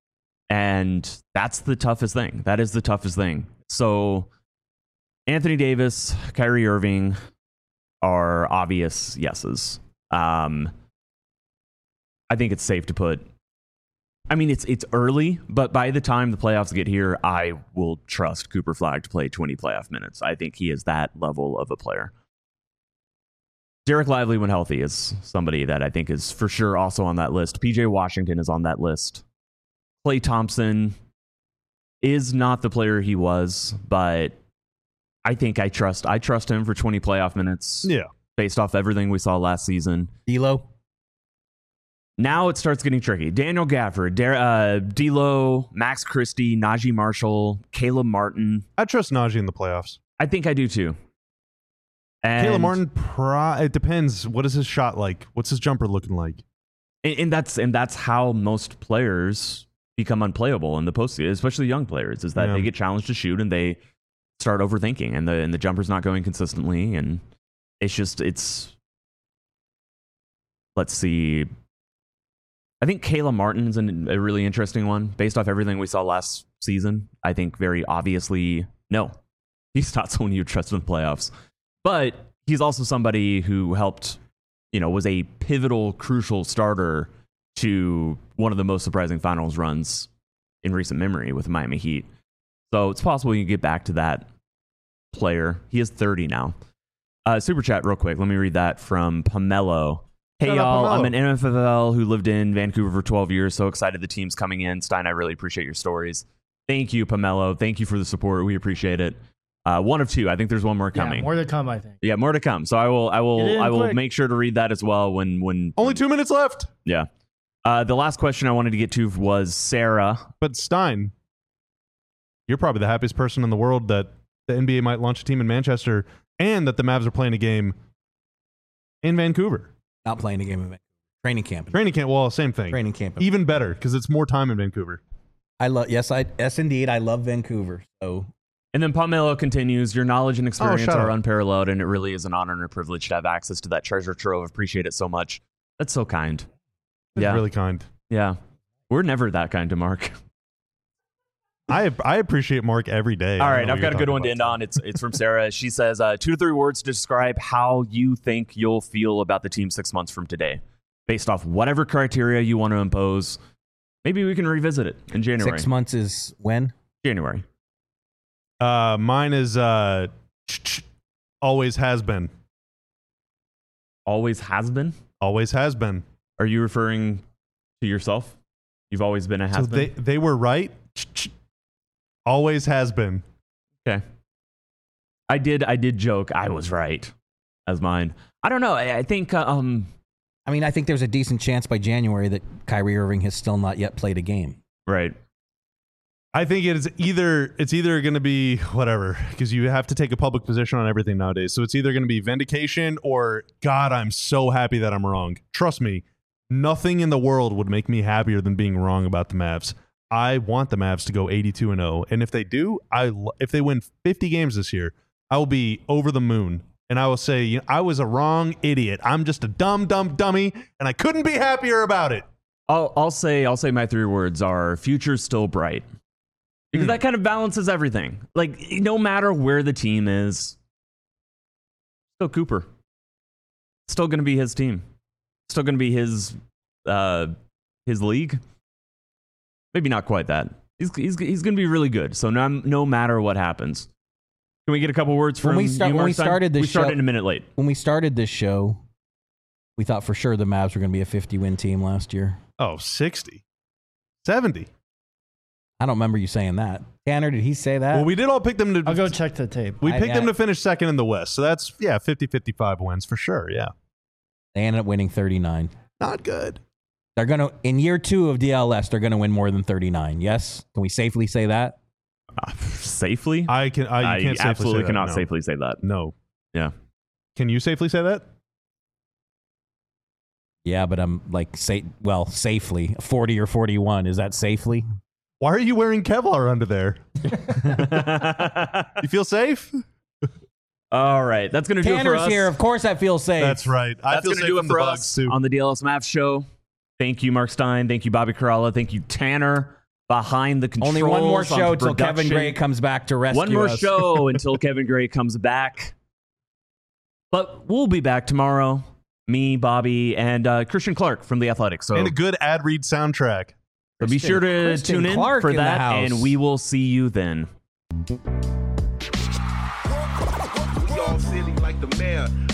And that's the toughest thing. That is the toughest thing. So Anthony Davis, Kyrie Irving are obvious yeses. I think it's safe to put. I mean, it's early, but by the time the playoffs get here, I will trust Cooper Flagg to play 20 playoff minutes. I think he is that level of a player. Derek Lively, when healthy, is somebody that I think is for sure also on that list. PJ Washington is on that list. Klay Thompson is not the player he was, but I think I trust him for 20 playoff minutes. Yeah. Based off everything we saw last season. D'Lo? Now it starts getting tricky. Daniel Gafford, D'Lo, Max Christie, Najee Marshall, Caleb Martin. I trust Najee in the playoffs. I think I do too. And Caleb Martin, it depends. What is his shot like? What's his jumper looking like? And that's how most players become unplayable in the postseason, especially young players, is that they get challenged to shoot and they start overthinking, and the jumper's not going consistently, and it's. Let's see. I think Caleb Martin is a really interesting one based off everything we saw last season. I think very obviously, no, he's not someone you trust in the playoffs, but he's also somebody who helped, was a pivotal, crucial starter to one of the most surprising finals runs in recent memory with the Miami Heat. So it's possible you can get back to that player. He is 30 now. Super chat real quick. Let me read that from Pomelo. Hey, y'all, I'm an NFL who lived in Vancouver for 12 years. So excited the team's coming in. Stein, I really appreciate your stories. Thank you, Pomelo. Thank you for the support. We appreciate it. One of two. I think there's one more coming. Yeah, more to come, I think. Yeah, more to come. So I will make sure to read that as well when Only 2 minutes left. Yeah. The last question I wanted to get to was Sarah. But Stein, you're probably the happiest person in the world that the NBA might launch a team in Manchester and that the Mavs are playing a game in Vancouver. Not playing a game in training camp. Training camp, well, same thing. Training camp. Even better because it's more time in Vancouver. Yes, indeed. I love Vancouver. So. And then Pomelo continues, your knowledge and experience are up. unparalleled, and it really is an honor and a privilege to have access to that treasure trove. Appreciate it so much. That's so kind. That's really kind. Yeah. We're never that kind to Mark. I appreciate Mark every day. All right, I've got a good one to end on. It's from Sarah. She says, 2 to 3 words to describe how you think you'll feel about the team 6 months from today, based off whatever criteria you want to impose. Maybe we can revisit it in January. 6 months is when? January. Mine is always has been. Always has been? Always has been. Are you referring to yourself? You've always been a has been? So they were right. Always has been. Okay. I did joke. I was right as mine. I don't know. I think. I mean, I think there's a decent chance by January that Kyrie Irving has still not yet played a game. Right. I think it's either going to be whatever, because you have to take a public position on everything nowadays. So it's either going to be vindication or, God, I'm so happy that I'm wrong. Trust me, nothing in the world would make me happier than being wrong about the Mavs. I want the Mavs to go 82-0, and if they do, if they win 50 games this year, I will be over the moon, and I will say, I was a wrong idiot. I'm just a dumb dummy, and I couldn't be happier about it. I'll say my 3 words are future's still bright, because that kind of balances everything. Like, no matter where the team is, still Cooper, still going to be his team, still going to be his league. Maybe not quite that. He's going to be really good. So no matter what happens. Can we get a couple words from you, Mark? We started a minute late. When we started this show, we thought for sure the Mavs were going to be a 50-win team last year. Oh, 60. 70. I don't remember you saying that. Tanner, did he say that? Well, we did all pick them to... I'll go check the tape. We picked them to finish second in the West. So that's, 50-55 wins for sure, yeah. They ended up winning 39. Not good. They're going to, in year 2 of DLS, they're going to win more than 39. Yes? Can we safely say that? Safely? I absolutely cannot safely say that. No. Yeah. Can you safely say that? Yeah, but I'm like, safely. 40 or 41. Is that safely? Why are you wearing Kevlar under there? You feel safe? All right. That's going to do it for us. Tanner's here. Of course I feel safe. That's right. That's going to do it for us too. On the DLS Mavs show. Thank you, Mark Stein. Thank you, Bobby Karalla. Thank you, Tanner. behind the controls. Only one more on show the until Kevin production. Gray comes back to rescue us. One more show until Kevin Gray comes back. But we'll be back tomorrow. Me, Bobby, and Christian Clark from The Athletic. So, And a good ad read soundtrack. so be sure to Christian tune in Clark for in the that, house. and we will see you then. We all silly like the mayor.